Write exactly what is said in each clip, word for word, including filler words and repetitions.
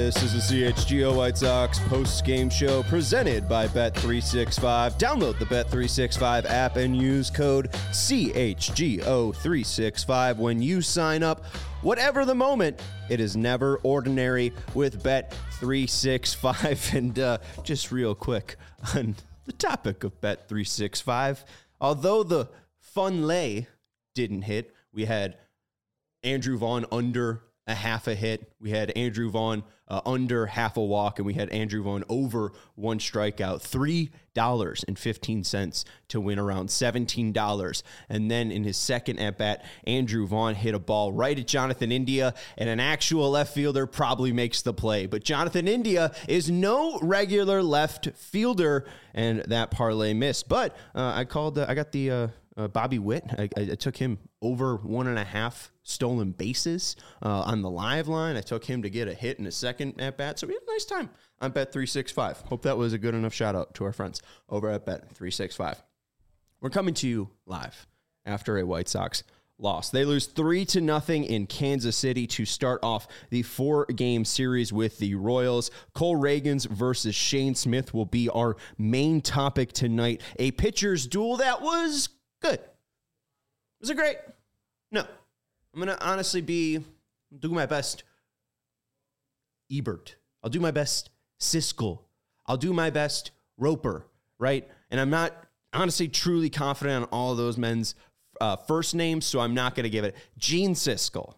This is the C H G O White Sox post-game show presented by Bet three sixty-five. Download the Bet three sixty-five app and use code C H G O three sixty-five when you sign up. Whatever the moment, it is never ordinary with Bet three sixty-five. And uh, just real quick on the topic of Bet three sixty-five, although the fun lay didn't hit, we had Andrew Vaughn under a half a hit. We had Andrew Vaughn uh, under half a walk, and we had Andrew Vaughn over one strikeout. three dollars and fifteen cents to win around seventeen dollars. And then in his second at-bat, Andrew Vaughn hit a ball right at Jonathan India, and an actual left fielder probably makes the play. But Jonathan India is no regular left fielder, and that parlay missed. But uh, I called, uh, I got the uh, uh, Bobby Witt. I, I, I took him over one and a half stolen bases uh, on the live line. I took him to get a hit in a second at bat. So we had a nice time on Bet three sixty-five. Hope that was a good enough shout out to our friends over at Bet three sixty-five. We're coming to you live after a White Sox loss. They lose three to nothing in Kansas City to start off the four game series with the Royals. Cole Ragans versus Shane Smith will be our main topic tonight. A pitcher's duel that was good. Was it great? No. I'm going to honestly be, do my best Ebert. I'll do my best Siskel. I'll do my best Roper, right? And I'm not honestly truly confident on all of those men's uh, first names, so I'm not going to give it. Gene Siskel.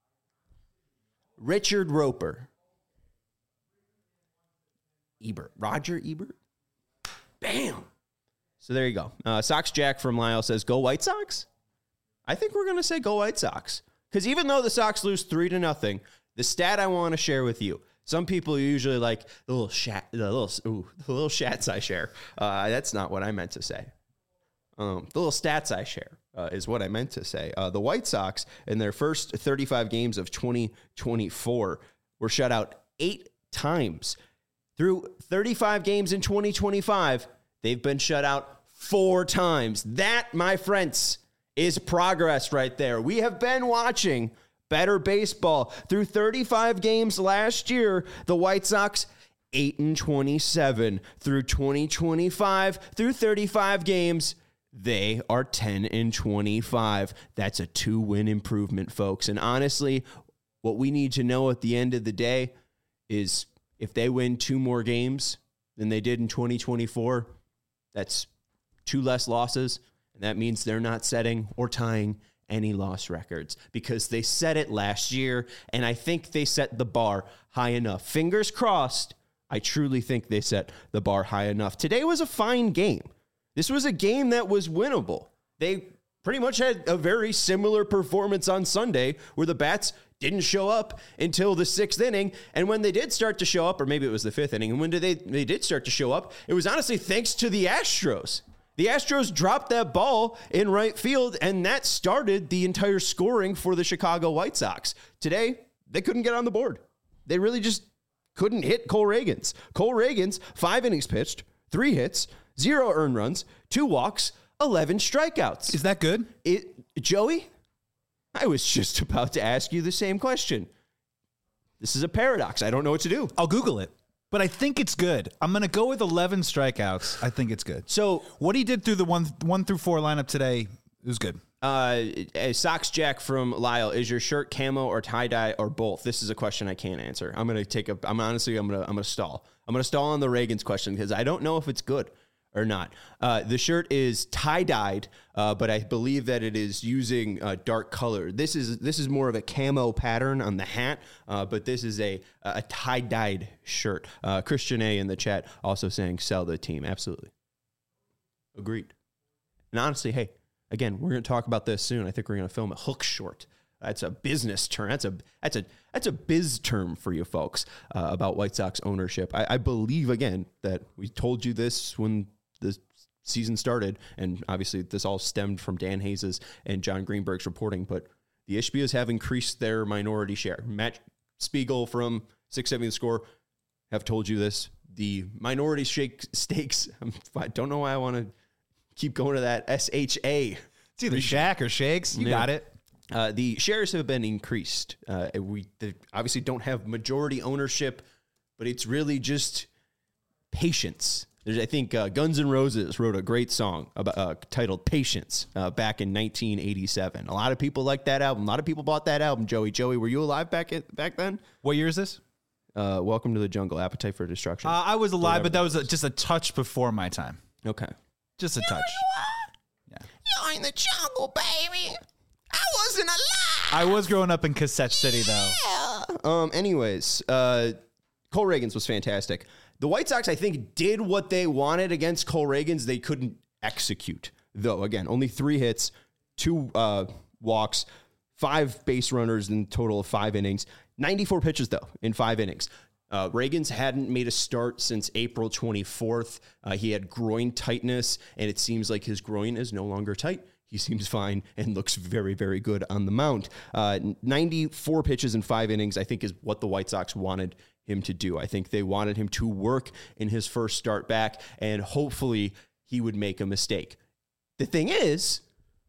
Richard Roper. Ebert. Roger Ebert. Bam! So there you go. Uh, Sox Jack from Lyle says, go White Sox? I think we're going to say go White Sox. Because even though the Sox lose three to nothing, the stat I want to share with you, some people usually like the little shat, the little, ooh, the little shats I share. Uh, that's not what I meant to say. Um, the little stats I share uh, is what I meant to say. Uh, the White Sox, in their first thirty-five games of twenty twenty-four, were shut out eight times. Through thirty-five games in twenty twenty-five, they've been shut out four times. That, my friends, is progress right there. We have been watching better baseball. Through thirty-five games last year, the White Sox eight and twenty-seven. Through twenty twenty-five, through thirty-five games, they are ten and twenty-five. That's a two-win improvement, folks. And honestly, what we need to know at the end of the day is if they win two more games than they did in twenty twenty-four, that's two less losses. And that means they're not setting or tying any loss records because they set it last year, and I think they set the bar high enough. Fingers crossed, I truly think they set the bar high enough. Today was a fine game. This was a game that was winnable. They pretty much had a very similar performance on Sunday where the bats didn't show up until the sixth inning, and when they did start to show up, or maybe it was the fifth inning, and when did they, they did start to show up, it was honestly thanks to the Astros. The Astros dropped that ball in right field, and that started the entire scoring for the Chicago White Sox. Today, they couldn't get on the board. They really just couldn't hit Cole Ragans. Cole Ragans, five innings pitched, three hits, zero earned runs, two walks, eleven strikeouts. Is that good? It, Joey, I was just about to ask you the same question. This is a paradox. I don't know what to do. I'll Google it. But I think it's good. I'm going to go with eleven strikeouts. I think it's good. So what he did through the one one through four lineup today is good. Uh, a Sox Jack from Lyle, is your shirt camo or tie dye or both? This is a question I can't answer. I'm going to take a. I'm honestly. I'm going to. I'm going to stall. I'm going to stall on the Ragans question because I don't know if it's good or not. Uh, the shirt is tie-dyed, uh, but I believe that it is using uh, dark color. This is this is more of a camo pattern on the hat, uh, but this is a a tie-dyed shirt. Uh, Christian A in the chat also saying sell the team. Absolutely. Agreed. And honestly, hey, again, we're going to talk about this soon. I think we're going to film a hook short. That's a business term. That's a that's a that's a biz term for you folks uh, about White Sox ownership. I, I believe again that we told you this when the season started, and obviously this all stemmed from Dan Hayes' and John Greenberg's reporting. But the Ishbias have increased their minority share. Matt Spiegel from six seventy The Score have told you this. The minority shake stakes. I don't know why I want to keep going to that S H A. It's either Shaq or Shakes. You yeah. got it. Uh, the shares have been increased. Uh, we obviously don't have majority ownership but it's really just patience. There's, I think uh, Guns N' Roses wrote a great song about, uh, titled Patience uh, back in nineteen eighty-seven. A lot of people liked that album. A lot of people bought that album, Joey. Joey, were you alive back at, back then? What year is this? Uh, Welcome to the Jungle, Appetite for Destruction. Uh, I was alive, but that was a, just a touch before my time. Okay. Just a touch. Yeah. You're in the jungle, baby. I wasn't alive. I was growing up in Cassette City, though. Yeah. Um. Anyways, uh, Cole Reagans was fantastic. The White Sox, I think, did what they wanted against Cole Reagans. They couldn't execute, though. Again, only three hits, two uh, walks, five base runners in total of five innings. ninety-four pitches, though, in five innings. Uh, Reagans hadn't made a start since April twenty-fourth. Uh, he had groin tightness, and it seems like his groin is no longer tight. He seems fine and looks very, very good on the mound. Uh, ninety-four pitches in five innings, I think, is what the White Sox wanted him to do. I think they wanted him to work in his first start back, and hopefully he would make a mistake. The thing is,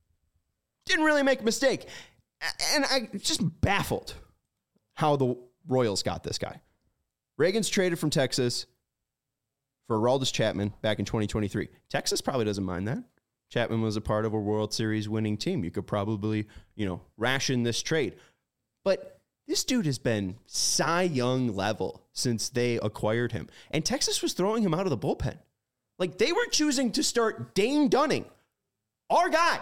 didn't really make a mistake. And I just baffled how the Royals got this guy. Reagans traded from Texas for Aroldis Chapman back in twenty twenty-three. Texas probably doesn't mind that. Chapman was a part of a World Series winning team. You could probably, you know, ration this trade. But this dude has been Cy Young level since they acquired him. And Texas was throwing him out of the bullpen. Like, they were choosing to start Dane Dunning, our guy,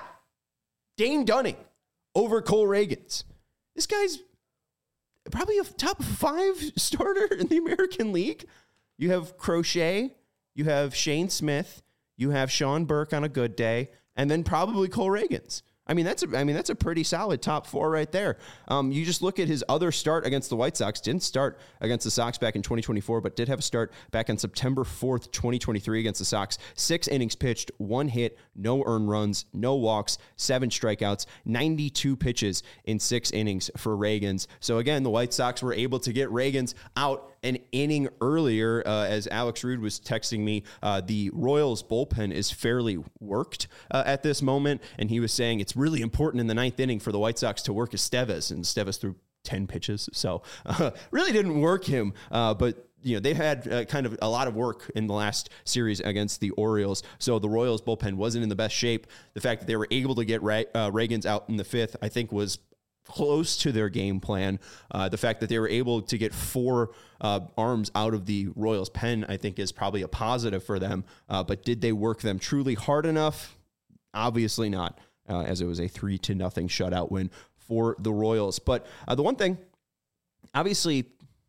Dane Dunning, over Cole Reagans. This guy's probably a top five starter in the American League. You have Crochet, you have Shane Smith, you have Sean Burke on a good day, and then probably Cole Reagans. I mean, that's a, I mean, that's a pretty solid top four right there. Um, you just look at his other start against the White Sox. Didn't start against the Sox back in twenty twenty-four, but did have a start back on September fourth, twenty twenty-three against the Sox. Six innings pitched, one hit, no earned runs, no walks, seven strikeouts, ninety-two pitches in six innings for Reagans. So again, the White Sox were able to get Reagans out an inning earlier. Uh, as Alex Rude was texting me, uh, the Royals bullpen is fairly worked uh, at this moment, and he was saying it's really important in the ninth inning for the White Sox to work Estevez, and Estevez threw ten pitches, so uh, really didn't work him, uh, but you know, they've had uh, kind of a lot of work in the last series against the Orioles, so the Royals bullpen wasn't in the best shape. The fact that they were able to get Ra- uh, Reagans out in the fifth, I think, was close to their game plan. Uh, the fact that they were able to get four uh, arms out of the Royals pen, I think, is probably a positive for them. Uh, but did they work them truly hard enough? Obviously not, uh, as it was a three to nothing shutout win for the Royals. But uh, the one thing, obviously,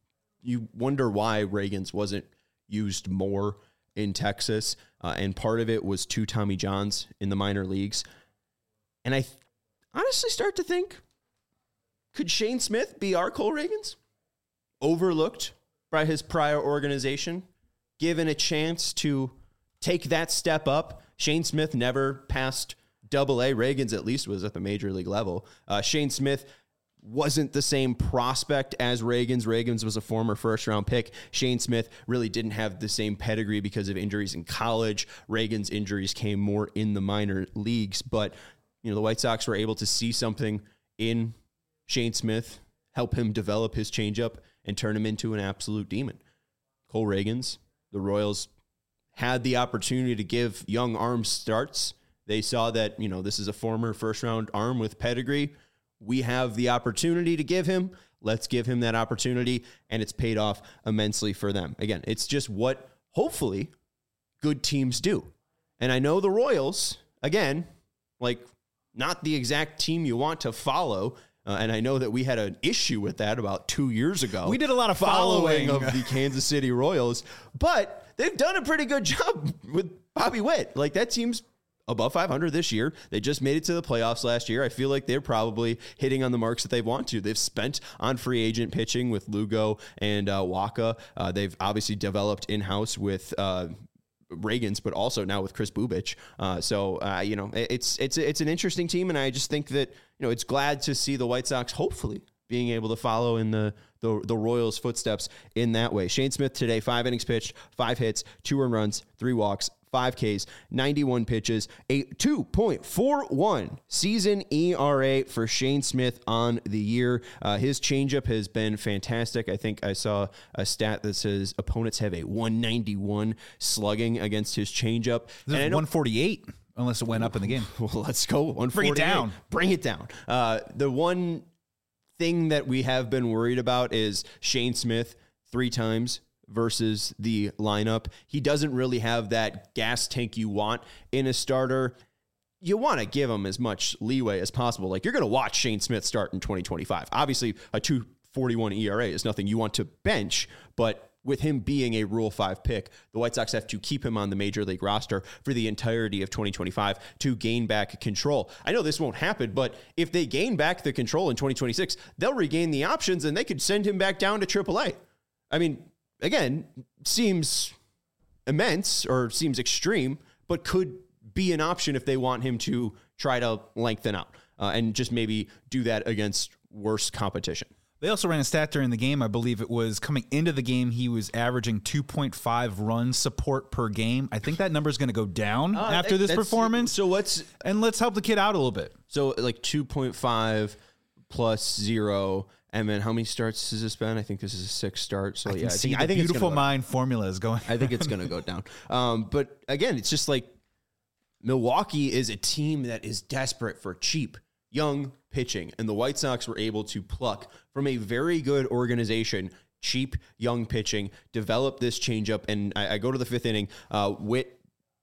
you wonder why Reagans wasn't used more in Texas, uh, and part of it was two Tommy Johns in the minor leagues. And I th- honestly start to think, could Shane Smith be our Cole Reagans? Overlooked by his prior organization, given a chance to take that step up. Shane Smith never passed double A. Reagans at least was at the major league level. Uh, Shane Smith wasn't the same prospect as Reagans. Reagans was a former first-round pick. Shane Smith really didn't have the same pedigree because of injuries in college. Reagans' injuries came more in the minor leagues. But, you know, the White Sox were able to see something in Shane Smith, help him develop his changeup, and turn him into an absolute demon. Cole Reagans, the Royals had the opportunity to give young arms starts. They saw that, you know, this is a former first-round arm with pedigree. We have the opportunity to give him. Let's give him that opportunity, and it's paid off immensely for them. Again, it's just what, hopefully, good teams do. And I know the Royals, again, like, not the exact team you want to follow. Uh, and I know that we had an issue with that about two years ago. We did a lot of following following of the Kansas City Royals, but they've done a pretty good job with Bobby Witt. Like, that team's above five hundred this year. They just made it to the playoffs last year. I feel like they're probably hitting on the marks that they want to. They've spent on free agent pitching with Lugo and uh, Waka. Uh, they've obviously developed in-house with uh, Reagans, but also now with Chris Bubich. Uh, so, uh, you know, it's it's it's an interesting team, and I just think that, you know, it's glad to see the White Sox hopefully being able to follow in the, the, the Royals' footsteps in that way. Shane Smith today, five innings pitched, five hits, two earned runs, three walks, five Ks, ninety-one pitches, a two point four one season E R A for Shane Smith on the year. Uh, his changeup has been fantastic. I think I saw a stat that says opponents have a one ninety-one slugging against his changeup. This is one forty-eight, unless it went up in the game. Well, let's go. one forty-eight. Bring it down. Bring it down. Uh, the one thing that we have been worried about is Shane Smith three times versus the lineup. He doesn't really have that gas tank you want in a starter. You want to give him as much leeway as possible. Like, you're going to watch Shane Smith start in twenty twenty-five. Obviously, a two forty-one E R A is nothing you want to bench, but with him being a Rule five pick, the White Sox have to keep him on the Major League roster for the entirety of twenty twenty-five to gain back control. I know this won't happen, but if they gain back the control in twenty twenty-six, they'll regain the options and they could send him back down to triple A. I mean, again, seems immense or seems extreme, but could be an option if they want him to try to lengthen out uh, and just maybe do that against worse competition. They also ran a stat during the game. I believe it was coming into the game, he was averaging two point five run support per game. I think that number is going to go down uh, after that, this performance. So what's and let's help the kid out a little bit. So like two point five plus zero. And then how many starts has this been? I think this is a sixth start. So I yeah, can I see think, the I think beautiful it's mind formula is going. I think it's going to go down. Um, but again, it's just like Milwaukee is a team that is desperate for cheap, young pitching. And the White Sox were able to pluck from a very good organization, cheap, young pitching, develop this changeup. And I, I go to the fifth inning. Uh, Witt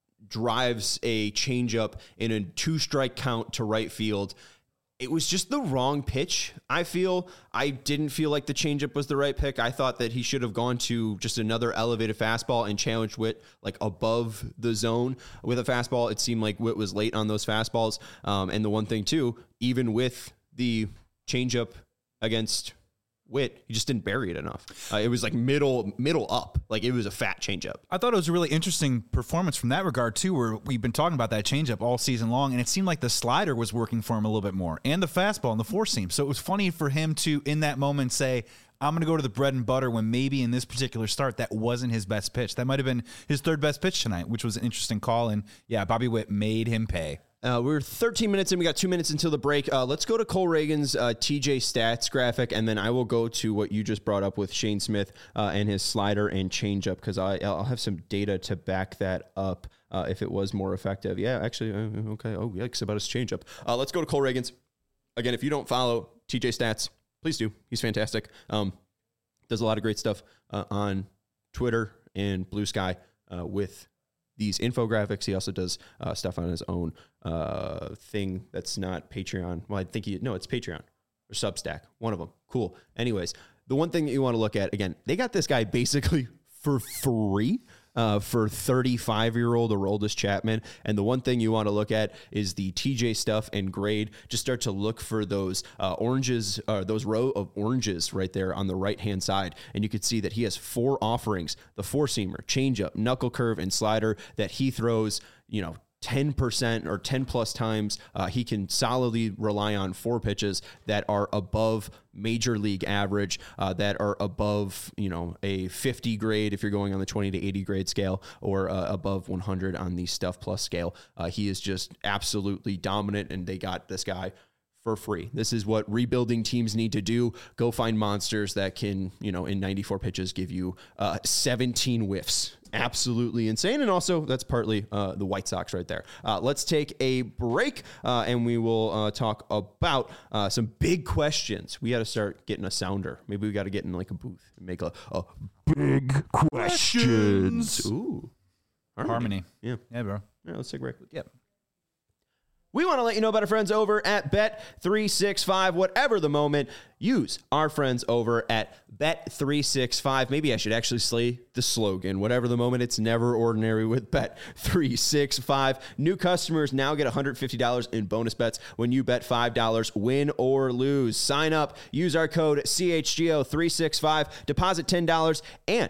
drives a changeup in a two-strike count to right field. It was just the wrong pitch, I feel. I didn't feel like the changeup was the right pick. I thought that he should have gone to just another elevated fastball and challenged Witt like above the zone with a fastball. It seemed like Witt was late on those fastballs. Um, and the one thing, too, even with the changeup against Witt, he just didn't bury it enough. Uh, it was like middle middle up. Like, it was a fat changeup. I thought it was a really interesting performance from that regard, too, where we've been talking about that changeup all season long, and it seemed like the slider was working for him a little bit more, and the fastball and the four seam. So it was funny for him to, in that moment, say, I'm going to go to the bread and butter, when maybe in this particular start, that wasn't his best pitch. That might have been his third best pitch tonight, which was an interesting call. And yeah, Bobby Witt made him pay. Uh, we're thirteen minutes in. We got two minutes until the break. Uh, let's go to Cole Reagan's uh, T J stats graphic, and then I will go to what you just brought up with Shane Smith uh, and his slider and changeup, because I'll have some data to back that up uh, if it was more effective. Yeah, actually, uh, okay. Oh, yikes about his changeup. Uh, let's go to Cole Reagan's. Again, if you don't follow T J stats, please do. He's fantastic. Um, does a lot of great stuff uh, on Twitter and Blue Sky uh, with these infographics. He also does uh, stuff on his own uh, thing that's not Patreon. Well, I think he, no, it's Patreon or Substack. One of them. Cool. Anyways, the one thing that you want to look at, again, they got this guy basically for free uh, for thirty-five-year-old Aroldis Chapman. And the one thing you want to look at is the T J stuff and grade. Just start to look for those uh, oranges, uh, those row of oranges right there on the right-hand side. And you can see that he has four offerings, the four-seamer, changeup, knuckle curve, and slider that he throws, you know, ten percent or ten plus times. Uh, he can solidly rely on four pitches that are above major league average, uh, that are above, you know, a fifty grade if you're going on the twenty to eighty grade scale, or uh, above one hundred on the Stuff Plus scale. Uh, he is just absolutely dominant, and they got this guy for free. This is what rebuilding teams need to do. Go find monsters that can, you know, in ninety-four pitches give you uh, seventeen whiffs. Absolutely insane. And also, that's partly uh, the White Sox right there. Uh, let's take a break, uh, and we will uh, talk about uh, some big questions. We got to start getting a sounder. Maybe we got to get in like a booth and make a, a big questions. Ooh. Harmony. Harmony. Yeah. Yeah, bro. Yeah, let's take a break. Yep. We want to let you know about our friends over at Bet three sixty-five. Whatever the moment, use our friends over at Bet three sixty-five. Maybe I should actually say the slogan. Whatever the moment, it's never ordinary with Bet three sixty-five. New customers now get one hundred fifty dollars in bonus bets when you bet five dollars, win or lose. Sign up, use our code C H G O three sixty-five, deposit ten dollars, and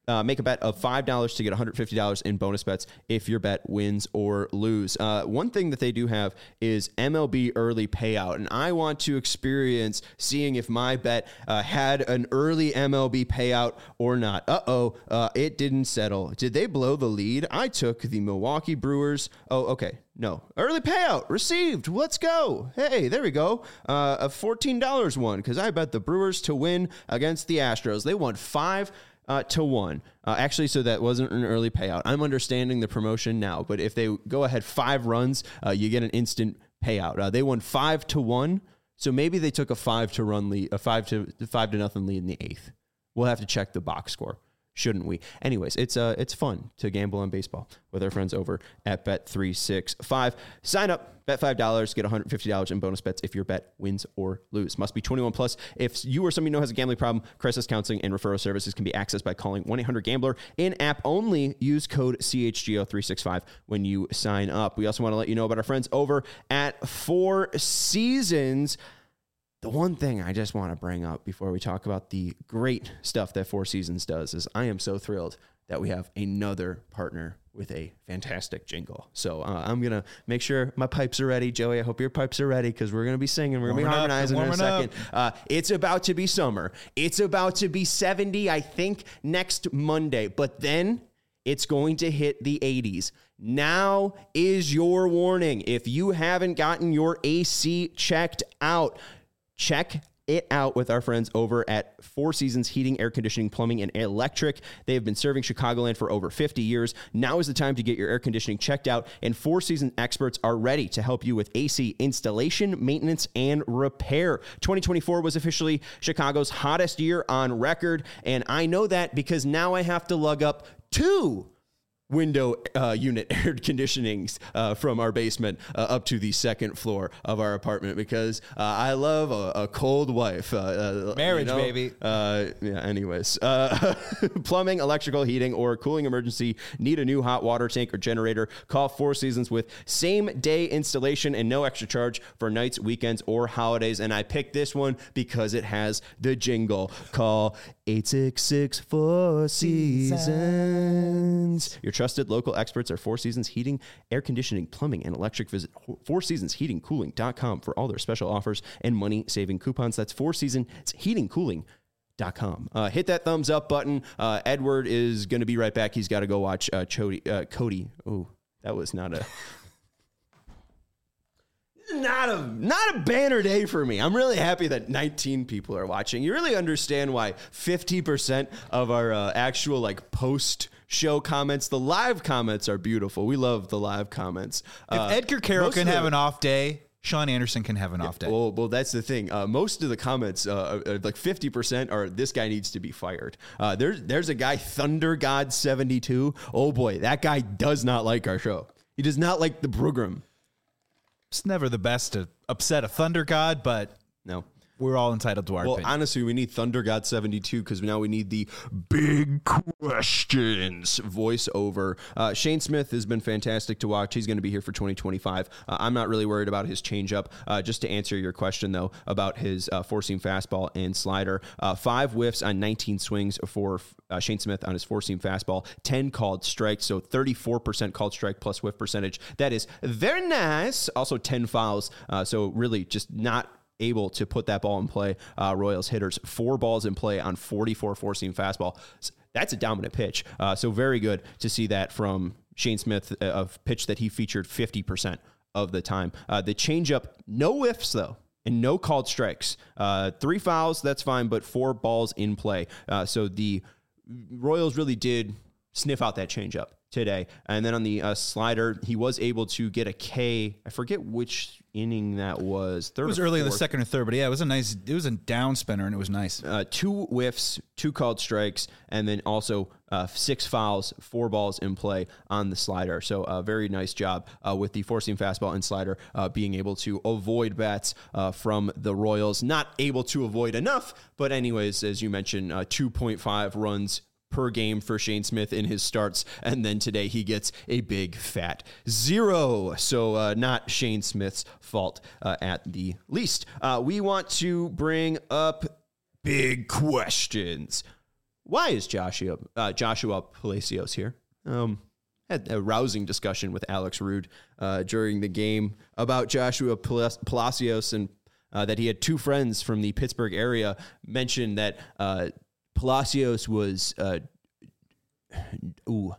Uh, make a bet of five dollars to get one hundred fifty dollars in bonus bets if your bet wins or lose. Uh, one thing that they do have is M L B early payout, and I want to experience seeing if my bet uh, had an early M L B payout or not. Uh-oh, uh, it didn't settle. Did they blow the lead? I took the Milwaukee Brewers. Oh, okay. No. Early payout received. Let's go. Hey, there we go. Uh, a fourteen dollars one because I bet the Brewers to win against the Astros. They won five Uh, to one. Uh, actually, so that wasn't an early payout. I'm understanding the promotion now, but if they go ahead five runs, uh, you get an instant payout. Uh, they won five to one, so maybe they took a five to run lead, a five to five to nothing lead in the eighth. We'll have to check the box score, shouldn't we? Anyways, it's uh, it's fun to gamble on baseball with our friends over at Bet three sixty-five. Sign up, bet five dollars, get one hundred fifty dollars in bonus bets if your bet wins or lose. Must be twenty-one plus. If you or somebody you know has a gambling problem, crisis counseling and referral services can be accessed by calling one eight hundred gambler. In-app only. Use code C H G O three sixty-five when you sign up. We also want to let you know about our friends over at Four Seasons. The one thing I just want to bring up before we talk about the great stuff that Four Seasons does is I am so thrilled that we have another partner with a fantastic jingle. So uh, I'm going to make sure my pipes are ready. Joey, I hope your pipes are ready because we're going to be singing. We're going to be harmonizing in a second. Uh, it's about to be summer. It's about to be seventy, I think, next Monday. But then it's going to hit the eighties. Now is your warning. If you haven't gotten your A C checked out, check it out with our friends over at Four Seasons Heating, Air Conditioning, Plumbing, and Electric. They have been serving Chicagoland for over fifty years. Now is the time to get your air conditioning checked out, and Four Seasons experts are ready to help you with A C installation, maintenance, and repair. twenty twenty-four was officially Chicago's hottest year on record, and I know that because now I have to lug up two window uh, unit air conditionings uh, from our basement uh, up to the second floor of our apartment because uh, I love a, a cold wife. Uh, uh, Marriage, you know? baby. Uh, yeah, anyways. Uh, plumbing, electrical, heating, or cooling emergency, need a new hot water tank or generator, call Four Seasons with same-day installation and no extra charge for nights, weekends, or holidays. And I picked this one because it has the jingle. Call eight six six, four seasons. Your trusted local experts are Four Seasons Heating, Air Conditioning, Plumbing, and Electric. Visit four seasons heating cooling dot com for all their special offers and money-saving coupons. That's Four Seasons Heating Cooling dot com. Uh, hit that thumbs up button. Uh, Edward is going to be right back. He's got to go watch uh, Chody, uh, Cody. Oh, that was not a... Not a not a banner day for me. I'm really happy that nineteen people are watching. You really understand why fifty percent of our uh, actual like post show comments, the live comments are beautiful. We love the live comments. If Uh, Edgar Carroll most can of the- have an off day, Sean Anderson can have an off day. Well, well, that's the thing. Uh, most of the comments, uh, uh, like fifty percent, are this guy needs to be fired. Uh, there's there's a guy, Thunder God seventy-two. Oh boy, that guy does not like our show. He does not like the program. It's never the best to upset a Thunder God, but No. we're all entitled to our Well, opinion. honestly, we need Thunder God seventy-two because now we need the big questions voiceover. Uh, Shane Smith has been fantastic to watch. He's going to be here for twenty twenty-five. Uh, I'm not really worried about his changeup. Uh, just to answer your question, though, about his uh, four-seam fastball and slider, uh, five whiffs on nineteen swings for uh, Shane Smith on his four-seam fastball, ten called strikes, so thirty-four percent called strike plus whiff percentage. That is very nice. Also ten fouls, uh, so really just not able to put that ball in play. Uh, Royals hitters, four balls in play on forty-four four-seam fastball. That's a dominant pitch. Uh, so very good to see that from Shane Smith, a uh, pitch that he featured fifty percent of the time. Uh, the changeup, no whiffs though, and no called strikes. Uh, three fouls, that's fine, but four balls in play. Uh, so the Royals really did sniff out that changeup today. And then on the uh, slider, he was able to get a K. I forget which inning that was. Third it was or early in the fourth. second or third, but yeah, it was a nice, it was a down spinner and it was nice. Uh, two whiffs, two called strikes, and then also uh, six fouls, four balls in play on the slider. So a uh, very nice job uh, with the four-seam fastball and slider uh, being able to avoid bats uh, from the Royals. Not able to avoid enough, but anyways, as you mentioned, uh, two point five runs per game for Shane Smith in his starts, and then today he gets a big fat zero. So uh, not Shane Smith's fault uh, at the least. Uh, we want to bring up big questions. why is Joshua uh, Joshua Palacios here? Um, had a rousing discussion with Alex Rude uh, during the game about Joshua Palacios and uh, that he had two friends from the Pittsburgh area mention that uh, Palacios was uh, ooh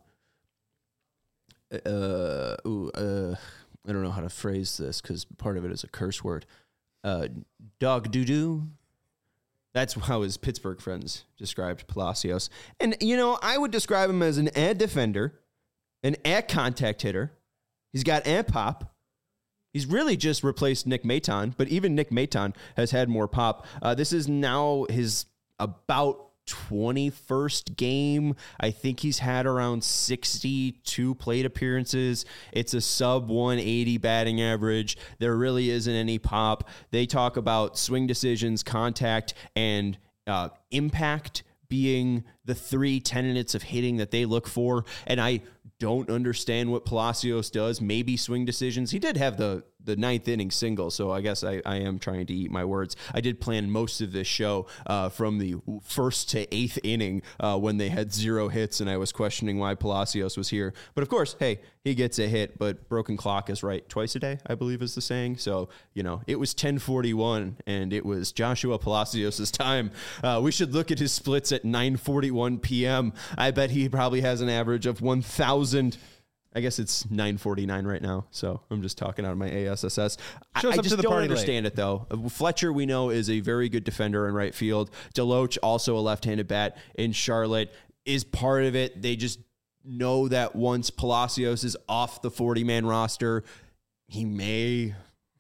uh, ooh uh, I don't know how to phrase this because part of it is a curse word. Uh, dog doo doo. That's how his Pittsburgh friends described Palacios. And, you know, I would describe him as an ad defender, an ad contact hitter. He's got ad pop. He's really just replaced Nick Maton, but even Nick Maton has had more pop. Uh, this is now his about twenty-first game. I think he's had around sixty-two plate appearances. It's a sub one eighty batting average. There really isn't any pop. They talk about swing decisions, contact, and uh, impact being the three tenets of hitting that they look for. And I don't understand what Palacios does. Maybe swing decisions. He did have the the ninth inning single, so I guess I, I am trying to eat my words. I did plan most of this show uh, from the first to eighth inning uh, when they had zero hits, and I was questioning why Palacios was here. But of course, hey, he gets a hit, but broken clock is right twice a day, I believe is the saying. So, you know, it was ten forty-one, and it was Joshua Palacios' time. Uh, we should look at his splits at nine forty-one p.m. I bet he probably has an average of one thousand. I guess it's nine forty-nine right now, so I'm just talking out of my A S S S. I, I just don't understand late. it, though. Fletcher, we know, is a very good defender in right field. Deloach, also a left-handed bat in Charlotte, is part of it. They just know that once Palacios is off the forty-man roster, he may,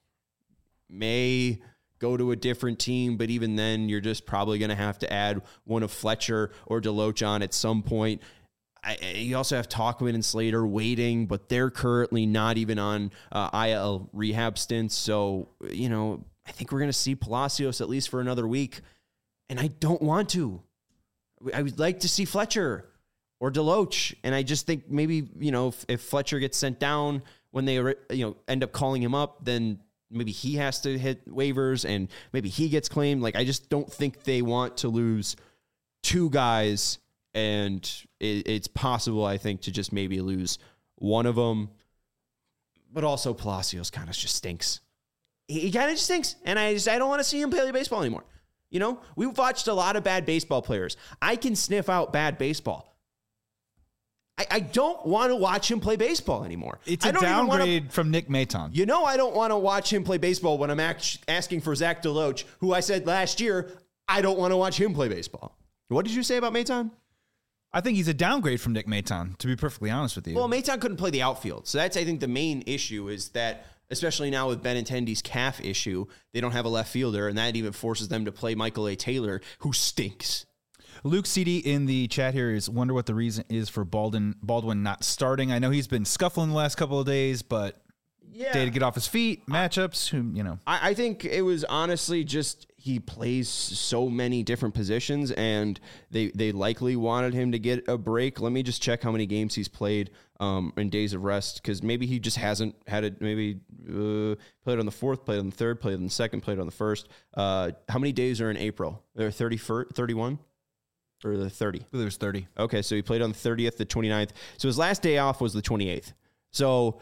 may go to a different team, but even then, you're just probably going to have to add one of Fletcher or Deloach on at some point. I, you also have Tauchman and Slater waiting, but they're currently not even on uh, I L rehab stints. So, you know, I think we're going to see Palacios at least for another week. And I don't want to. I would like to see Fletcher or Deloach. And I just think maybe, you know, if, if Fletcher gets sent down when they, you know, end up calling him up, then maybe he has to hit waivers and maybe he gets claimed. Like, I just don't think they want to lose two guys. And it, it's possible, I think, to just maybe lose one of them. But also, Palacios kind of just stinks. He, he kind of just stinks. And I just I don't want to see him play baseball anymore. You know, we've watched a lot of bad baseball players. I can sniff out bad baseball. I, I don't want to watch him play baseball anymore. It's a downgrade wanna, from Nick Maton. You know, I don't want to watch him play baseball when I'm act, asking for Zach Deloach, who I said last year, I don't want to watch him play baseball. What did you say about Maton? I think he's a downgrade from Nick Maton, to be perfectly honest with you. Well, Maton couldn't play the outfield. So that's, I think, the main issue is that, especially now with Benintendi's calf issue, they don't have a left fielder, and that even forces them to play Michael A. Taylor, who stinks. Luke C D in the chat here is wonder what the reason is for Baldwin, Baldwin not starting. I know he's been scuffling the last couple of days, but yeah. Day to get off his feet, matchups, who, you know. I, I think it was honestly just he plays so many different positions, and they they likely wanted him to get a break. Let me just check how many games he's played um, in days of rest, because maybe he just hasn't had it. Maybe uh, played on the fourth, played on the third, played on the second, played on the first. Uh, how many days are in April? There are thirty, thirty-one? Or the thirty? I believe it was thirty. Okay, so he played on the thirtieth, the twenty-ninth. So his last day off was the twenty-eighth. So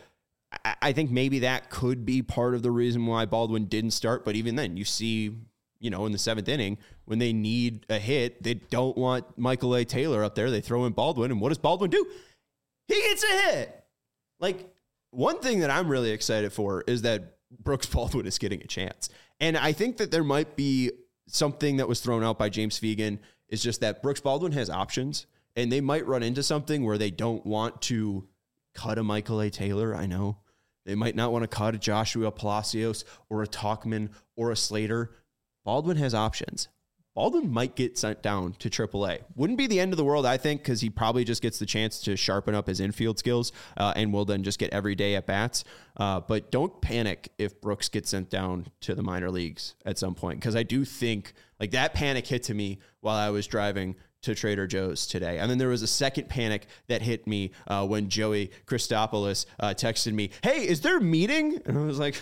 I think maybe that could be part of the reason why Baldwin didn't start. But even then, you see, you know, in the seventh inning, when they need a hit, they don't want Michael A. Taylor up there. They throw in Baldwin. And what does Baldwin do? He gets a hit. Like, one thing that I'm really excited for is that Brooks Baldwin is getting a chance. And I think that there might be something that was thrown out by James Fegan is just that Brooks Baldwin has options, and they might run into something where they don't want to cut a Michael A. Taylor. I know they might not want to cut a Joshua Palacios or a Tauchman or a Slater. Baldwin has options. Baldwin might get sent down to triple A. Wouldn't be the end of the world, I think, because he probably just gets the chance to sharpen up his infield skills uh, and will then just get every day at bats. Uh, but don't panic if Brooks gets sent down to the minor leagues at some point, because I do think like that panic hit to me while I was driving to Trader Joe's today. And then there was a second panic that hit me uh, when Joey Christopoulos uh, texted me, "Hey, is there a meeting?" And I was like,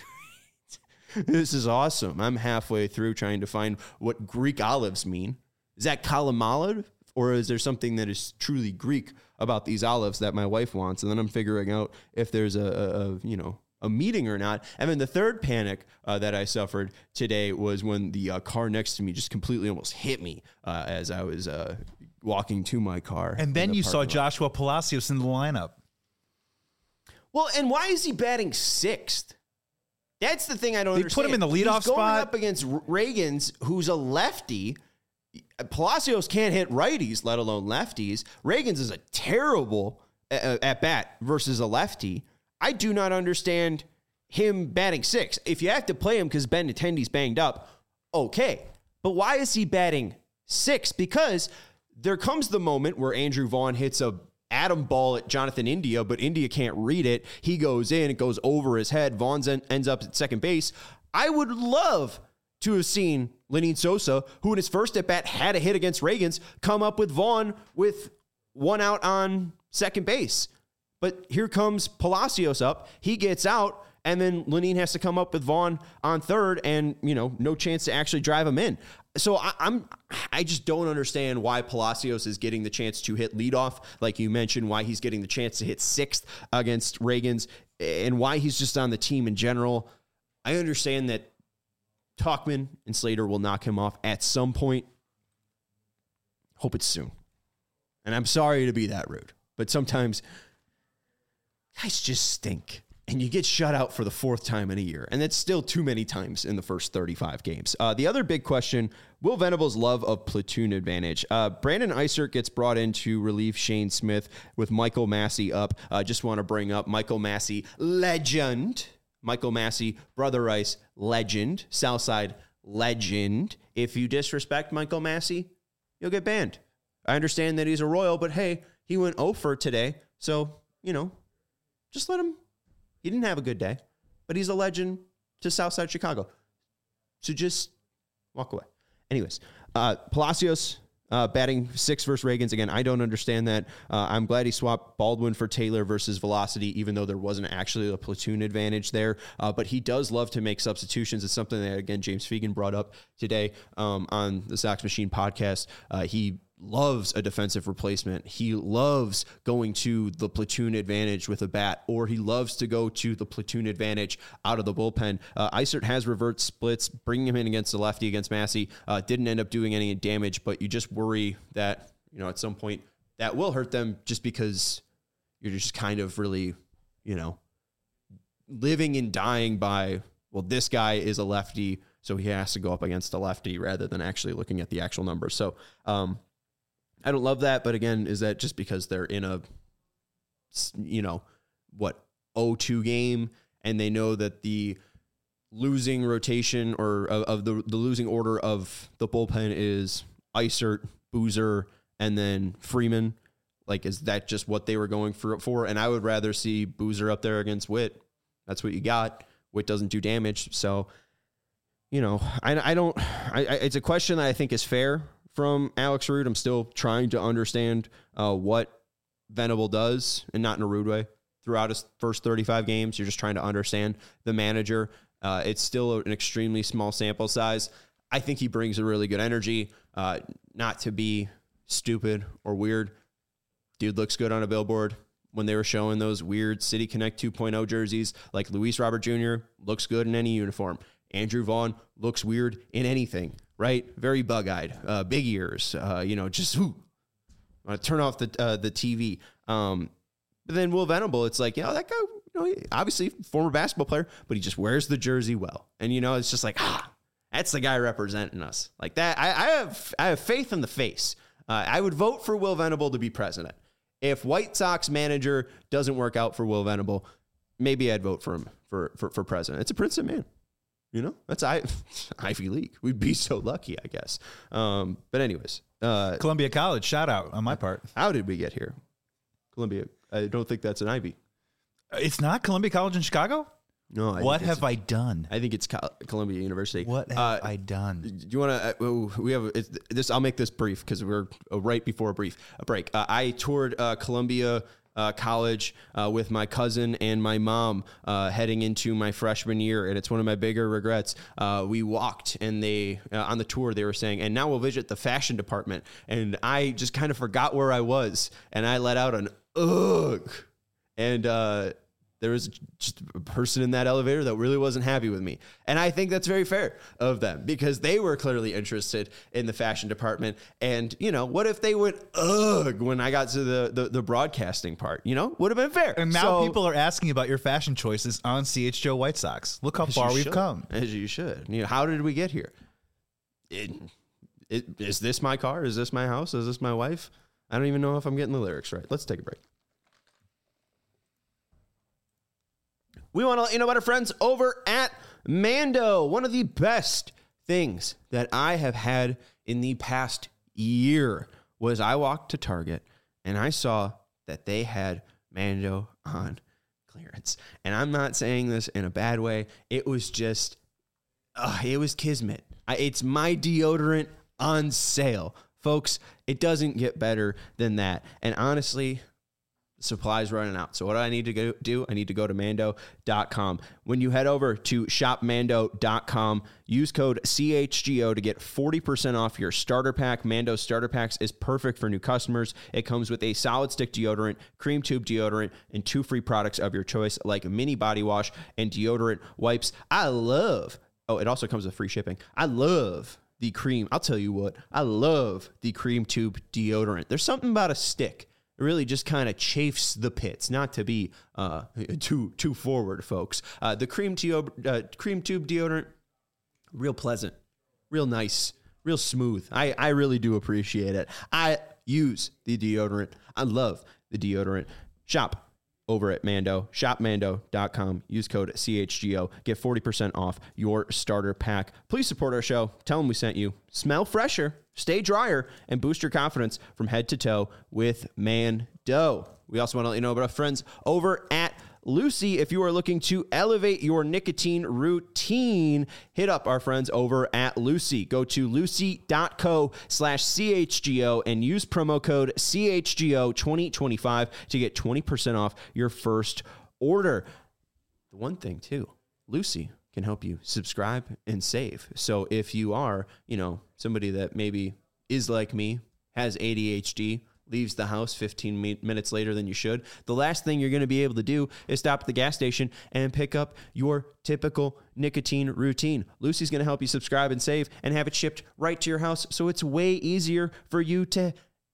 this is awesome. I'm halfway through trying to find what Greek olives mean. Is that kalamala Or is there something that is truly Greek about these olives that my wife wants? And then I'm figuring out if there's a, a, a you know, a meeting or not. And then the third panic uh, that I suffered today was when the uh, car next to me just completely almost hit me uh, as I was uh, walking to my car. And then the you saw lot. Joshua Palacios in the lineup. Well, and why is he batting sixth? That's the thing I don't They understand. put him in the leadoff He's going spot. up against Reagans, who's a lefty. Palacios can't hit righties, let alone lefties. Reagans is a terrible uh, at bat versus a lefty. I do not understand him batting six. If you have to play him because Benintendi's banged up, okay. But why is he batting six? Because there comes the moment where Andrew Vaughn hits a atom ball at Jonathan India, but India can't read it. He goes in, it goes over his head. Vaughn en- ends up at second base. I would love to have seen Lenyn Sosa, who in his first at-bat had a hit against Reagans, come up with Vaughn with one out on second base. But here comes Palacios up. He gets out, and then Lenyn has to come up with Vaughn on third, and, you know, no chance to actually drive him in. So I, I'm, I just don't understand why Palacios is getting the chance to hit leadoff, like you mentioned, why he's getting the chance to hit sixth against Reagans, and why he's just on the team in general. I understand that Tauchman and Slater will knock him off at some point. Hope it's soon. And I'm sorry to be that rude, but sometimes guys just stink. And you get shut out for the fourth time in a year. And that's still too many times in the first thirty-five games. Uh, the other big question, Will Venable's love of platoon advantage. Uh, Brandon Eisert gets brought in to relieve Shane Smith with Michael Massey up. I uh, just want to bring up Michael Massey, legend. Michael Massey, Brother Ice, legend. Southside, legend. If you disrespect Michael Massey, you'll get banned. I understand that he's a Royal, but hey, he went oh for today. So, you know, just let him. He didn't have a good day, but he's a legend to Southside Chicago. So just walk away. Anyways, uh, Palacios uh, batting six versus Reagans. Again, I don't understand that. Uh, I'm glad he swapped Baldwin for Taylor versus Velocity, even though there wasn't actually a platoon advantage there. Uh, but he does love to make substitutions. It's something that, again, James Fegan brought up today um, on the Sox Machine podcast. Uh, he loves a defensive replacement. He loves going to the platoon advantage with a bat, or he loves to go to the platoon advantage out of the bullpen. Uh, Eisert has revert splits, bringing him in against the lefty against Massey. Uh, didn't end up doing any damage, but you just worry that, you know, at some point that will hurt them just because you're just kind of really, you know, living and dying by, well, this guy is a lefty, so he has to go up against a lefty rather than actually looking at the actual numbers. So, um, I don't love that, but again, is that just because they're in a, you know, what, oh two game, and they know that the losing rotation or of, of the the losing order of the bullpen is Eisert, Boozer, and then Freeman? Like, is that just what they were going for? for? And I would rather see Boozer up there against Witt. That's what you got. Witt doesn't do damage, so you know, I I don't. I, I it's a question that I think is fair from Alex Rude. I'm still trying to understand uh, what Venable does, and not in a rude way. Throughout his first thirty-five games, you're just trying to understand the manager. Uh, it's still an extremely small sample size. I think he brings a really good energy. Uh, not to be stupid or weird, dude looks good on a billboard. When they were showing those weird City Connect two point oh jerseys, like Luis Robert Junior looks good in any uniform. Andrew Vaughn looks weird in anything. Right? Very bug-eyed, uh, big ears, uh, you know, just ooh, uh, turn off the uh, the T V. Um, but then Will Venable, it's like, you know, that guy, you know, obviously former basketball player, but he just wears the jersey well. And, you know, it's just like, ah, that's the guy representing us. Like that, I, I have I have faith in the face. Uh, I would vote for Will Venable to be president. If White Sox manager doesn't work out for Will Venable, maybe I'd vote for him for, for, for president. It's a Princeton man. You know, that's I, Ivy League. We'd be so lucky, I guess. Um, but anyways. Uh, Columbia College, shout out on my part. How did we get here? Columbia. I don't think that's an Ivy. It's not Columbia College in Chicago? No. I what have I done? I think it's Col- Columbia University. What have uh, I done? Do you want to? Uh, we have it's, this. I'll make this brief because we're uh, right before a brief a break. Uh, I toured uh, Columbia uh, uh, college uh, with my cousin and my mom uh, heading into my freshman year, and it's one of my bigger regrets. Uh, we walked, and they uh, on the tour they were saying, and now we'll visit the fashion department, and I just kind of forgot where I was, and I let out an ugh, and uh, there was just a person in that elevator that really wasn't happy with me. And I think that's very fair of them because they were clearly interested in the fashion department. And, you know, what if they went, ugh, when I got to the, the, the broadcasting part, you know, would have been fair. And now so, people are asking about your fashion choices on C H G O White Sox. Look how far we've should, come. As you should. You know, how did we get here? It, it, is this my car? Is this my house? Is this my wife? I don't even know if I'm getting the lyrics right. Let's take a break. We want to let you know about our friends over at Mando. One of the best things that I have had in the past year was I walked to Target and I saw that they had Mando on clearance. And I'm not saying this in a bad way. It was just, uh, it was kismet. I, it's my deodorant on sale. Folks, it doesn't get better than that. And honestly, supplies running out. So what do I need to go do? I need to go to mando dot com. When you head over to shop mando dot com, use code C H G O to get forty percent off your starter pack. Mando starter packs is perfect for new customers. It comes with a solid stick deodorant, cream tube deodorant, and two free products of your choice like mini body wash and deodorant wipes. I love, oh, it also comes with free shipping. I love the cream. I'll tell you what, I love the cream tube deodorant. There's something about a stick. It really just kind of chafes the pits, not to be uh, too too forward, folks. Uh, the cream, teo- uh, cream tube deodorant, real pleasant, real nice, real smooth. I, I really do appreciate it. I use the deodorant. I love the deodorant. Shop over at Mando, shop mando dot com. Use code C H G O. Get forty percent off your starter pack. Please support our show. Tell them we sent you. Smell fresher, stay drier, and boost your confidence from head to toe with Mando. We also want to let you know about our friends over at Lucy. If you are looking to elevate your nicotine routine, hit up our friends over at Lucy. Go to lucy dot co slash C H G O and use promo code C H G O twenty twenty-five to get twenty percent off your first order. The one thing, too, Lucy can help you subscribe and save. So if you are, you know, somebody that maybe is like me, has A D H D, leaves the house fifteen minutes later than you should, the last thing you're going to be able to do is stop at the gas station and pick up your typical nicotine routine. Lucy's going to help you subscribe and save and have it shipped right to your house, so it's way easier for you to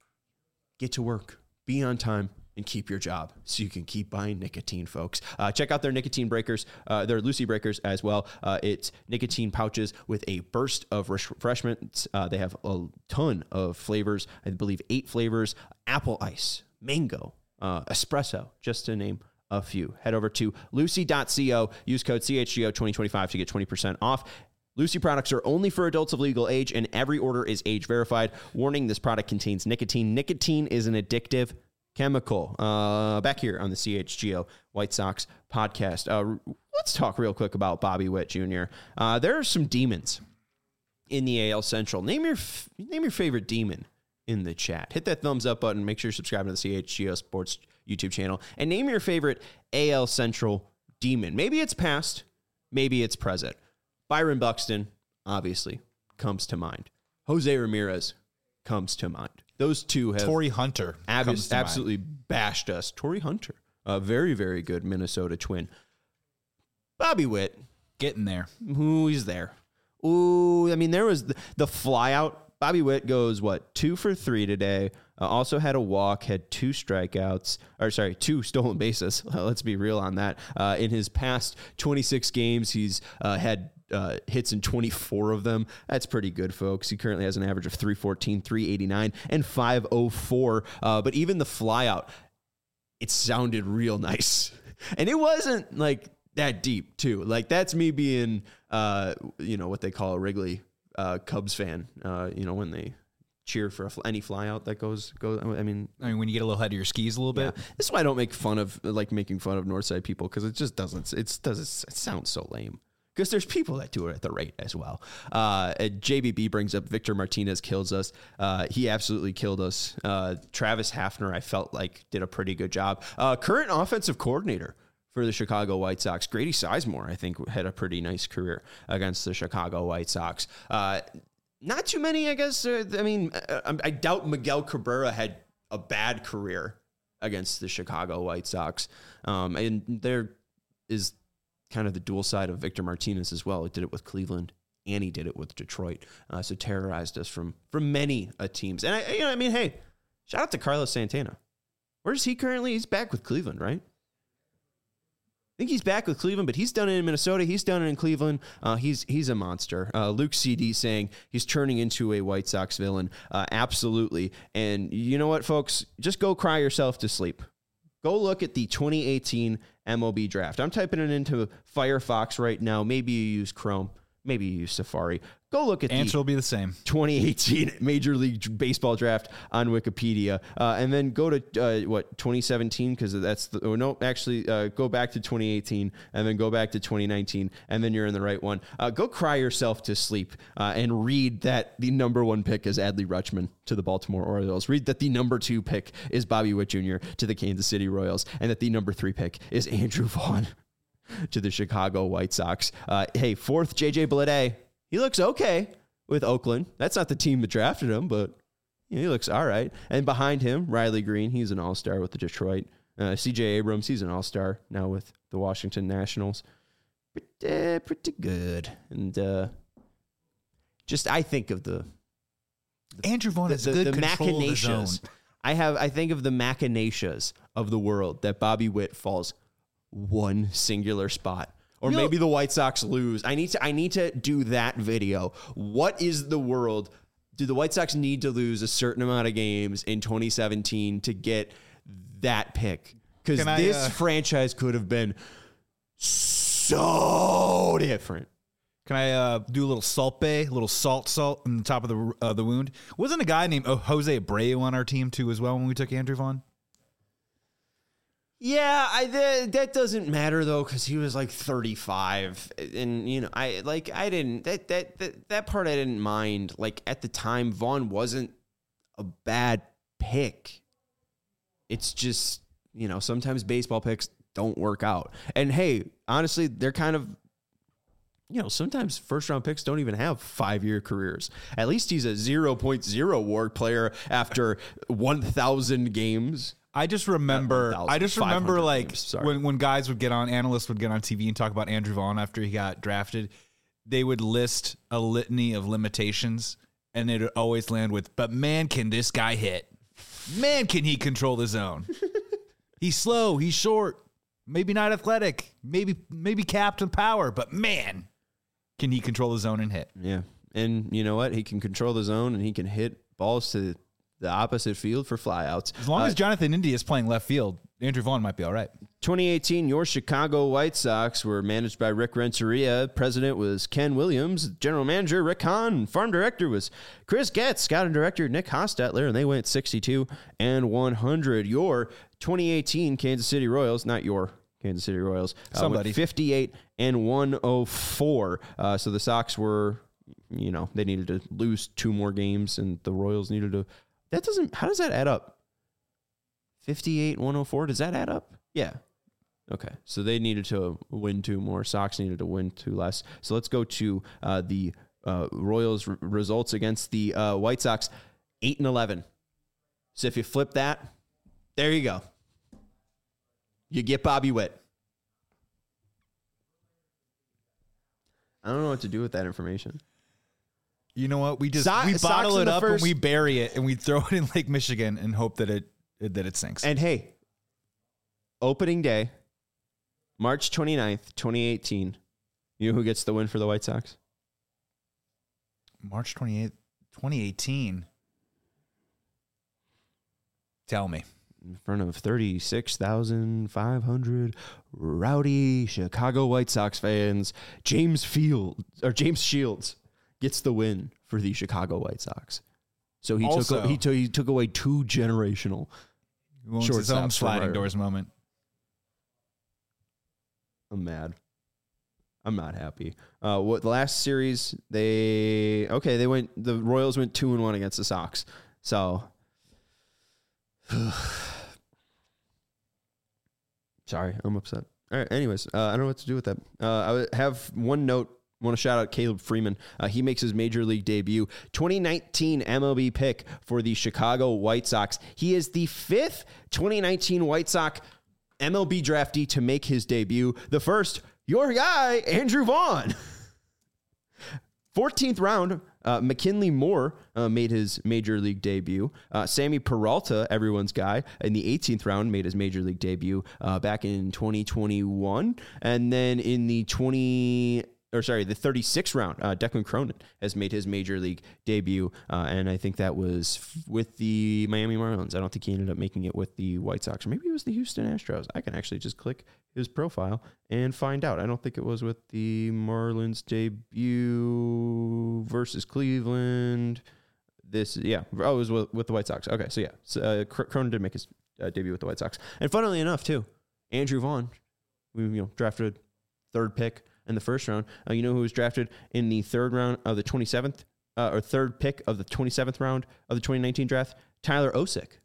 get to work, be on time, and keep your job so you can keep buying nicotine, folks. Uh, check out their nicotine breakers, uh, their Lucy breakers as well. Uh, it's nicotine pouches with a burst of refreshments. Uh, they have a ton of flavors. I believe eight flavors: apple ice, mango, uh, espresso, just to name a few. Head over to lucy dot co. Use code C H G O twenty twenty-five to get twenty percent off. Lucy products are only for adults of legal age, and every order is age verified. Warning, this product contains nicotine. Nicotine is an addictive chemical. Uh, back here on the C H G O White Sox podcast. Uh, let's talk real quick about Bobby Witt Junior Uh, there are some demons in the A L Central. Name your f- name your favorite demon in the chat. Hit that thumbs up button. Make sure you're subscribing to the C H G O Sports YouTube channel. And name your favorite A L Central demon. Maybe it's past. Maybe it's present. Byron Buxton, obviously, comes to mind. Jose Ramirez comes to mind. Those two have Torii Hunter ab- comes to absolutely mind. bashed us. Torii Hunter, a very, very good Minnesota Twin. Bobby Witt, Getting there. who is there? Ooh, I mean, there was the, the flyout. Bobby Witt goes, what, two for three today. Uh, also had a walk, had two strikeouts, or sorry, two stolen bases. Let's be real on that. Uh, in his past twenty-six games, he's uh, had uh, hits in twenty-four of them. That's pretty good, folks. He currently has an average of three fourteen, three eighty-nine, and five oh four. Uh, but even the flyout, it sounded real nice. And it wasn't like that deep, too. Like, that's me being, uh, you know, what they call a Wrigley uh, Cubs fan, uh, you know, when they cheer for a fl- any flyout that goes, goes. I mean, I mean, when you get a little head of your skis a little yeah. bit. This is why I don't make fun of, like, making fun of Northside people, because it just doesn't, it doesn't, it sounds so lame. because there's people that do it at the rate as well. Uh, J B B brings up Victor Martinez kills us. Uh, he absolutely killed us. Uh, Travis Hafner, I felt like, did a pretty good job. Uh, current offensive coordinator for the Chicago White Sox, Grady Sizemore, I think, had a pretty nice career against the Chicago White Sox. Uh, not too many, I guess. Uh, I mean, I, I doubt Miguel Cabrera had a bad career against the Chicago White Sox. Um, and there is kind of the dual side of Victor Martinez as well. He did it with Cleveland and he did it with Detroit. Uh, so terrorized us from, from many uh, teams. And I, you know, I mean, hey, shout out to Carlos Santana. Where's he currently? He's back with Cleveland, right? I think he's back with Cleveland, but he's done it in Minnesota. He's done it in Cleveland. Uh, he's he's a monster. Uh, Luke C D saying he's turning into a White Sox villain. Uh, absolutely. And you know what, folks? Just go cry yourself to sleep. Go look at the twenty eighteen M L B draft. I'm typing it into Firefox right now. Maybe you use Chrome. Maybe you use Safari. Go look at Answer the will be the same. twenty eighteen Major League Baseball draft on Wikipedia, uh, and then go to uh, what twenty seventeen because that's the oh no actually uh, go back to twenty eighteen and then go back to twenty nineteen and then you're in the right one. Uh, go cry yourself to sleep uh, and read that the number one pick is Adley Rutschman to the Baltimore Orioles. Read that the number two pick is Bobby Witt Junior to the Kansas City Royals, and that the number three pick is Andrew Vaughn to the Chicago White Sox. Uh, hey, fourth, J J Bleday. He looks okay with Oakland. That's not the team that drafted him, but you know, he looks all right. And behind him, Riley Green. He's an all-star with the Detroit. Uh, C J Abrams, he's an all-star now with the Washington Nationals. Pretty, pretty good. And uh, just I think of the... the Andrew Vaughn has the, good the control of his zone. machinations. I have. I think of the machinations of the world that Bobby Witt falls one singular spot. Or You know- maybe the White Sox lose. I need to I need to do that video. What is the world? Do the White Sox need to lose a certain amount of games in twenty seventeen to get that pick? Because Can I, this uh, franchise could have been so different. Can I uh, do a little salt bay, a little salt salt on the top of the uh, the wound? Wasn't a guy named oh, Jose Abreu on our team too as well when we took Andrew Vaughn? Yeah, I that, that doesn't matter though because he was like thirty-five, and you know I like I didn't that, that that that part I didn't mind. Like at the time, Vaughn wasn't a bad pick. It's just you know sometimes baseball picks don't work out, and hey, honestly, they're kind of you know sometimes first round picks don't even have five year careers. At least he's a zero point zero WAR player after one thousand games. I just remember, I just remember like games, when, when guys would get on, analysts would get on T V and talk about Andrew Vaughn after he got drafted, they would list a litany of limitations and it would always land with, but man, can this guy hit? Man, can he control the zone? He's slow, he's short, maybe not athletic, maybe, maybe capped in power, but man, can he control the zone and hit? Yeah. And you know what? He can control the zone and he can hit balls to the opposite field for flyouts. As long uh, as Jonathan India is playing left field, Andrew Vaughn might be all right. twenty eighteen, your Chicago White Sox were managed by Rick Renteria. President was Ken Williams. General manager, Rick Hahn. Farm director was Chris Getz. Scouting director, Nick Hostetler. And they went sixty-two and one hundred. Your twenty eighteen Kansas City Royals, not your Kansas City Royals, uh, Somebody. went fifty-eight and one oh four. Uh, so the Sox were, you know, they needed to lose two more games, and the Royals needed to. That doesn't, how does that add up? fifty-eight, one oh four, does that add up? Yeah. Okay. So they needed to win two more. Sox needed to win two less. So let's go to uh, the uh, Royals r- results against the uh, White Sox, eight and eleven. So if you flip that, there you go. You get Bobby Witt. I don't know what to do with that information. You know what? We just So- we Sox bottle in it the up first- and we bury it and we throw it in Lake Michigan and hope that it that it sinks. And hey, opening day, March twenty-ninth, twenty eighteen. You know who gets the win for the White Sox? March twenty-eighth, twenty eighteen. Tell me. In front of thirty-six thousand five hundred rowdy Chicago White Sox fans, James Field or James Shields gets the win for the Chicago White Sox. So he Also- took he took he took away two generational. Owns his own Shortstops for sliding Ryder. doors moment. I'm mad. I'm not happy. Uh, what the last series they okay they went the Royals went two and one against the Sox. So sorry, I'm upset. All right. Anyways, uh, I don't know what to do with that. Uh, I have one note. I want to shout out Caleb Freeman. Uh, he makes his major league debut. twenty nineteen M L B pick for the Chicago White Sox. He is the fifth twenty nineteen White Sox M L B draftee to make his debut. The first, your guy, Andrew Vaughn. fourteenth round, uh, McKinley Moore uh, made his major league debut. Uh, Sammy Peralta, everyone's guy, in the eighteenth round made his major league debut uh, back in twenty twenty-one. And then in the twenty... or sorry, the thirty-sixth round, uh, Declan Cronin has made his major league debut, uh, and I think that was f- with the Miami Marlins. I don't think he ended up making it with the White Sox, or maybe it was the Houston Astros. I can actually just click his profile and find out. I don't think it was with the Marlins debut versus Cleveland. This, yeah, oh, it was with, with the White Sox. Okay, so yeah, so, uh, Cronin did make his uh, debut with the White Sox, and funnily enough, too, Andrew Vaughn, we you know drafted third pick in the first round. Uh, you know who was drafted in the third round of the twenty-seventh, uh, or third pick of the twenty-seventh round of the twenty nineteen draft? Tyler Osick,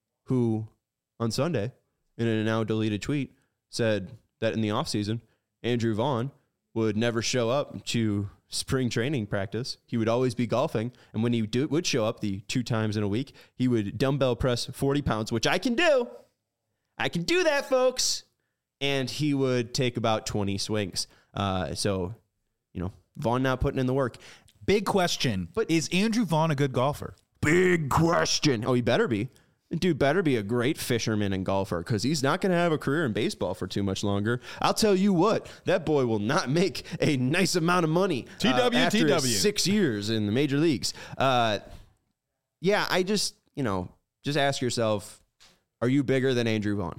who on Sunday, in a now deleted tweet, said that in the offseason, Andrew Vaughn would never show up to spring training practice. He would always be golfing. And when he do, would show up the two times in a week, he would dumbbell press forty pounds, which I can do. I can do that, folks. And he would take about twenty swings. Uh, so, you know, Vaughn not putting in the work. Big question. But is Andrew Vaughn a good golfer? Big question. Oh, he better be. Dude better be a great fisherman and golfer, because he's not going to have a career in baseball for too much longer. I'll tell you what, that boy will not make a nice amount of money uh, T W, after T W. his six years in the major leagues. Uh, yeah, I just, you know, just ask yourself, are you bigger than Andrew Vaughn?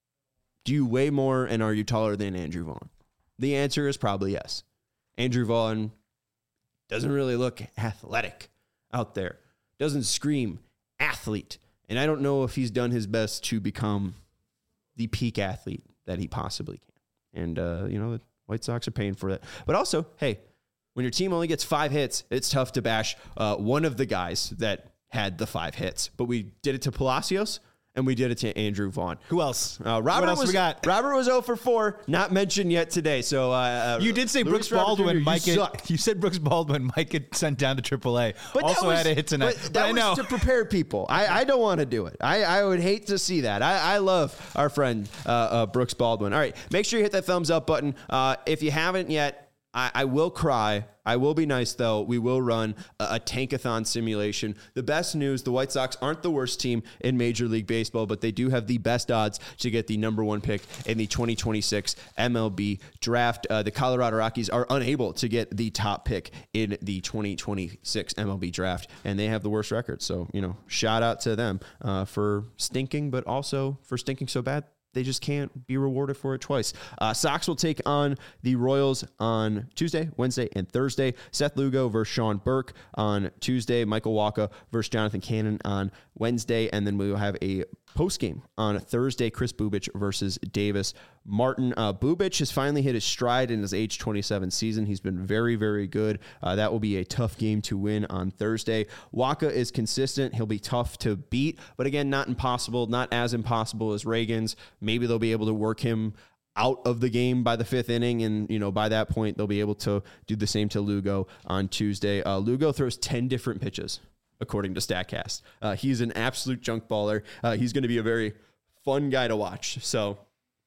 Do you weigh more, and are you taller than Andrew Vaughn? The answer is probably yes. Andrew Vaughn doesn't really look athletic out there. Doesn't scream athlete. And I don't know if he's done his best to become the peak athlete that he possibly can. And, uh, you know, the White Sox are paying for that. But also, hey, when your team only gets five hits, it's tough to bash uh, one of the guys that had the five hits. But we did it to Palacios. And we did it to Andrew Vaughn. Who else? Uh, Robert what else was, we got? Robert was zero for four, not mentioned yet today. So uh, you did say Luis Brooks Baldwin Robert Junior, might you get. suck. You said Brooks Baldwin might get sent down to triple A. But also was, had a hit tonight. But but that I was know. to prepare people. I, I don't want to do it. I, I would hate to see that. I, I love our friend uh, uh, Brooks Baldwin. All right, make sure you hit that thumbs up button. Uh, if you haven't yet, I, I will cry. I will be nice, though. We will run a, a tankathon simulation. The best news, the White Sox aren't the worst team in Major League Baseball, but they do have the best odds to get the number one pick in the twenty twenty-six M L B draft. Uh, the Colorado Rockies are unable to get the top pick in the twenty twenty-six M L B draft, and they have the worst record. So, you know, shout out to them uh, for stinking, but also for stinking so bad they just can't be rewarded for it twice. Uh, Sox will take on the Royals on Tuesday, Wednesday, and Thursday. Seth Lugo versus Sean Burke on Tuesday. Michael Wacha versus Jonathan Cannon on Wednesday. And then we will have a postgame on Thursday. Chris Bubich versus Davis Martin. Uh, Bubich has finally hit his stride in his age twenty-seven season. He's been very, very good. Uh, that will be a tough game to win on Thursday. Wacha is consistent. He'll be tough to beat, but again, not impossible, not as impossible as Reagan's. Maybe they'll be able to work him out of the game by the fifth inning, and you know by that point they'll be able to do the same to Lugo on Tuesday. Uh, Lugo throws ten different pitches, according to StatCast. Uh, he's an absolute junk baller. Uh, he's going to be a very fun guy to watch. So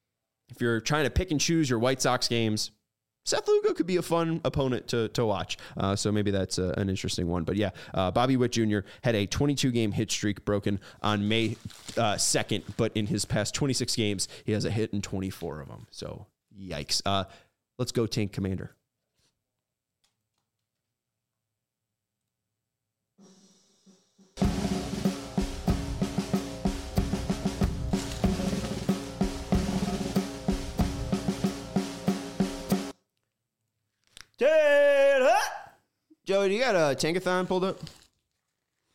if you're trying to pick and choose your White Sox games, Seth Lugo could be a fun opponent to to watch. Uh, so maybe that's a, an interesting one. But yeah, uh, Bobby Witt Junior had a twenty-two game hit streak broken on May uh, second, but in his past twenty-six games, he has a hit in twenty-four of them. So yikes. Uh, let's go Tank Commander. Joey, do you got a Tankathon pulled up?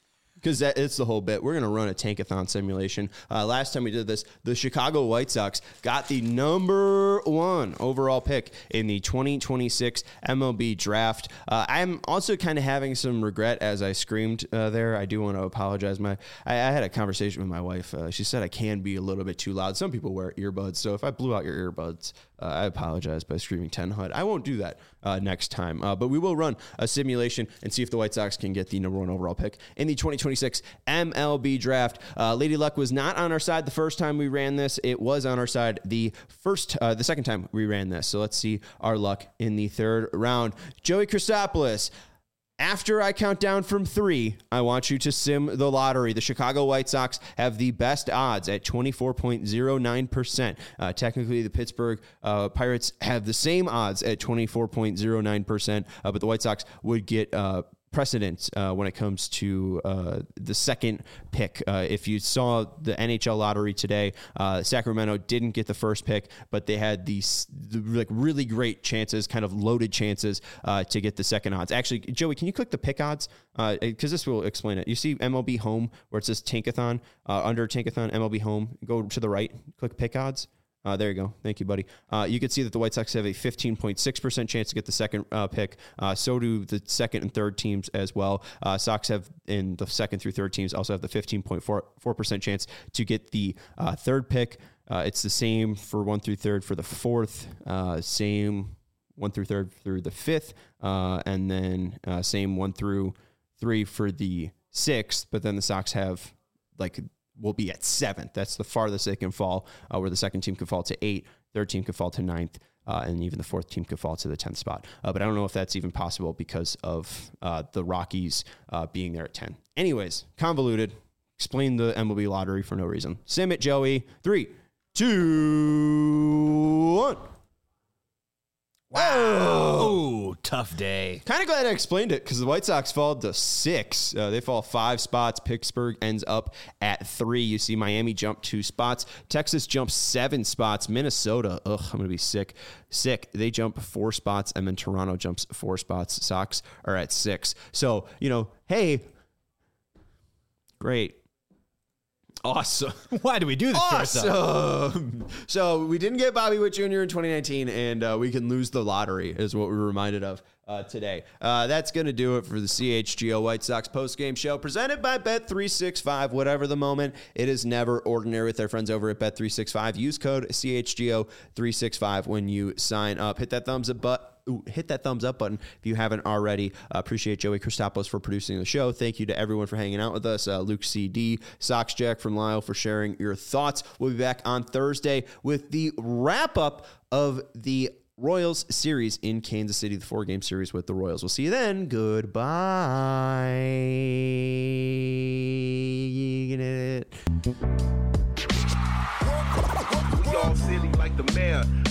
because it's the whole bit. We're going to run a tankathon simulation. Uh, last time we did this, the Chicago White Sox got the number one overall pick in the twenty twenty-six M L B draft. Uh, I'm also kind of having some regret as I screamed uh, there. I do want to apologize. My I, I had a conversation with my wife. Uh, she said I can be a little bit too loud. Some people wear earbuds, so if I blew out your earbuds, uh, I apologize by screaming ten H U D. I won't do that uh, next time, uh, but we will run a simulation and see if the White Sox can get the number one overall pick in the twenty twenty-six M L B draft. Uh, Lady Luck was not on our side the first time we ran this. It was on our side the first, uh, the second time we ran this. So let's see our luck in the third round. Joey Christopoulos. After I count down from three, I want you to sim the lottery. The Chicago White Sox have the best odds at twenty-four point oh nine percent. Uh, technically, the Pittsburgh uh, Pirates have the same odds at twenty-four point oh nine percent, uh, but the White Sox would get uh, precedence uh, when it comes to uh, the second pick. Uh, if you saw the N H L lottery today, uh, Sacramento didn't get the first pick, but they had these the, like really great chances, kind of loaded chances uh, to get the second odds. Actually, Joey, can you click the pick odds? Because uh, this will explain it. You see M L B Home where it says Tankathon, uh, under Tankathon, M L B Home, go to the right, click pick odds. Uh, there you go. Thank you, buddy. Uh, you can see that the White Sox have a fifteen point six percent chance to get the second uh, pick. Uh, so do the second and third teams as well. Uh, Sox have, in the second through third teams, also have the fifteen point four percent chance to get the uh, third pick. Uh, it's the same for one through third for the fourth, uh, same one through third through the fifth, uh, and then uh, same one through three for the sixth. But then the Sox have like will be at seventh. That's the farthest they can fall, uh, where the second team could fall to eight, third team could fall to ninth, uh, and even the fourth team could fall to the tenth spot. Uh, but I don't know if that's even possible because of uh, the Rockies uh, being there at ten. Anyways, convoluted. Explain the M L B lottery for no reason. Sim it, Joey. Three, two, one. Wow. Oh, tough day. Kind of glad I explained it because the White Sox fall to six. Uh, they fall five spots. Pittsburgh ends up at three. You see Miami jump two spots. Texas jumps seven spots. Minnesota, ugh, I'm going to be sick. Sick. They jump four spots, and then Toronto jumps four spots. Sox are at six. So, you know, hey, great. Awesome. Why do we do this to ourselves? Awesome. So we didn't get Bobby Witt Junior in twenty nineteen, and uh, we can lose the lottery is what we're reminded of uh, today. Uh, that's going to do it for the C H G O White Sox postgame show presented by Bet three sixty-five. Whatever the moment, it is never ordinary with our friends over at Bet three sixty-five. Use code C H G O three sixty-five when you sign up. Hit that thumbs up button. Ooh, hit that thumbs up button if you haven't already. Uh, appreciate Joey Christopoulos for producing the show. Thank you to everyone for hanging out with us. Uh, Luke C D, Sox Jack from Lyle for sharing your thoughts. We'll be back on Thursday with the wrap up of the Royals series in Kansas City, the four game series with the Royals. We'll see you then. Goodbye. We all silly like the mayor.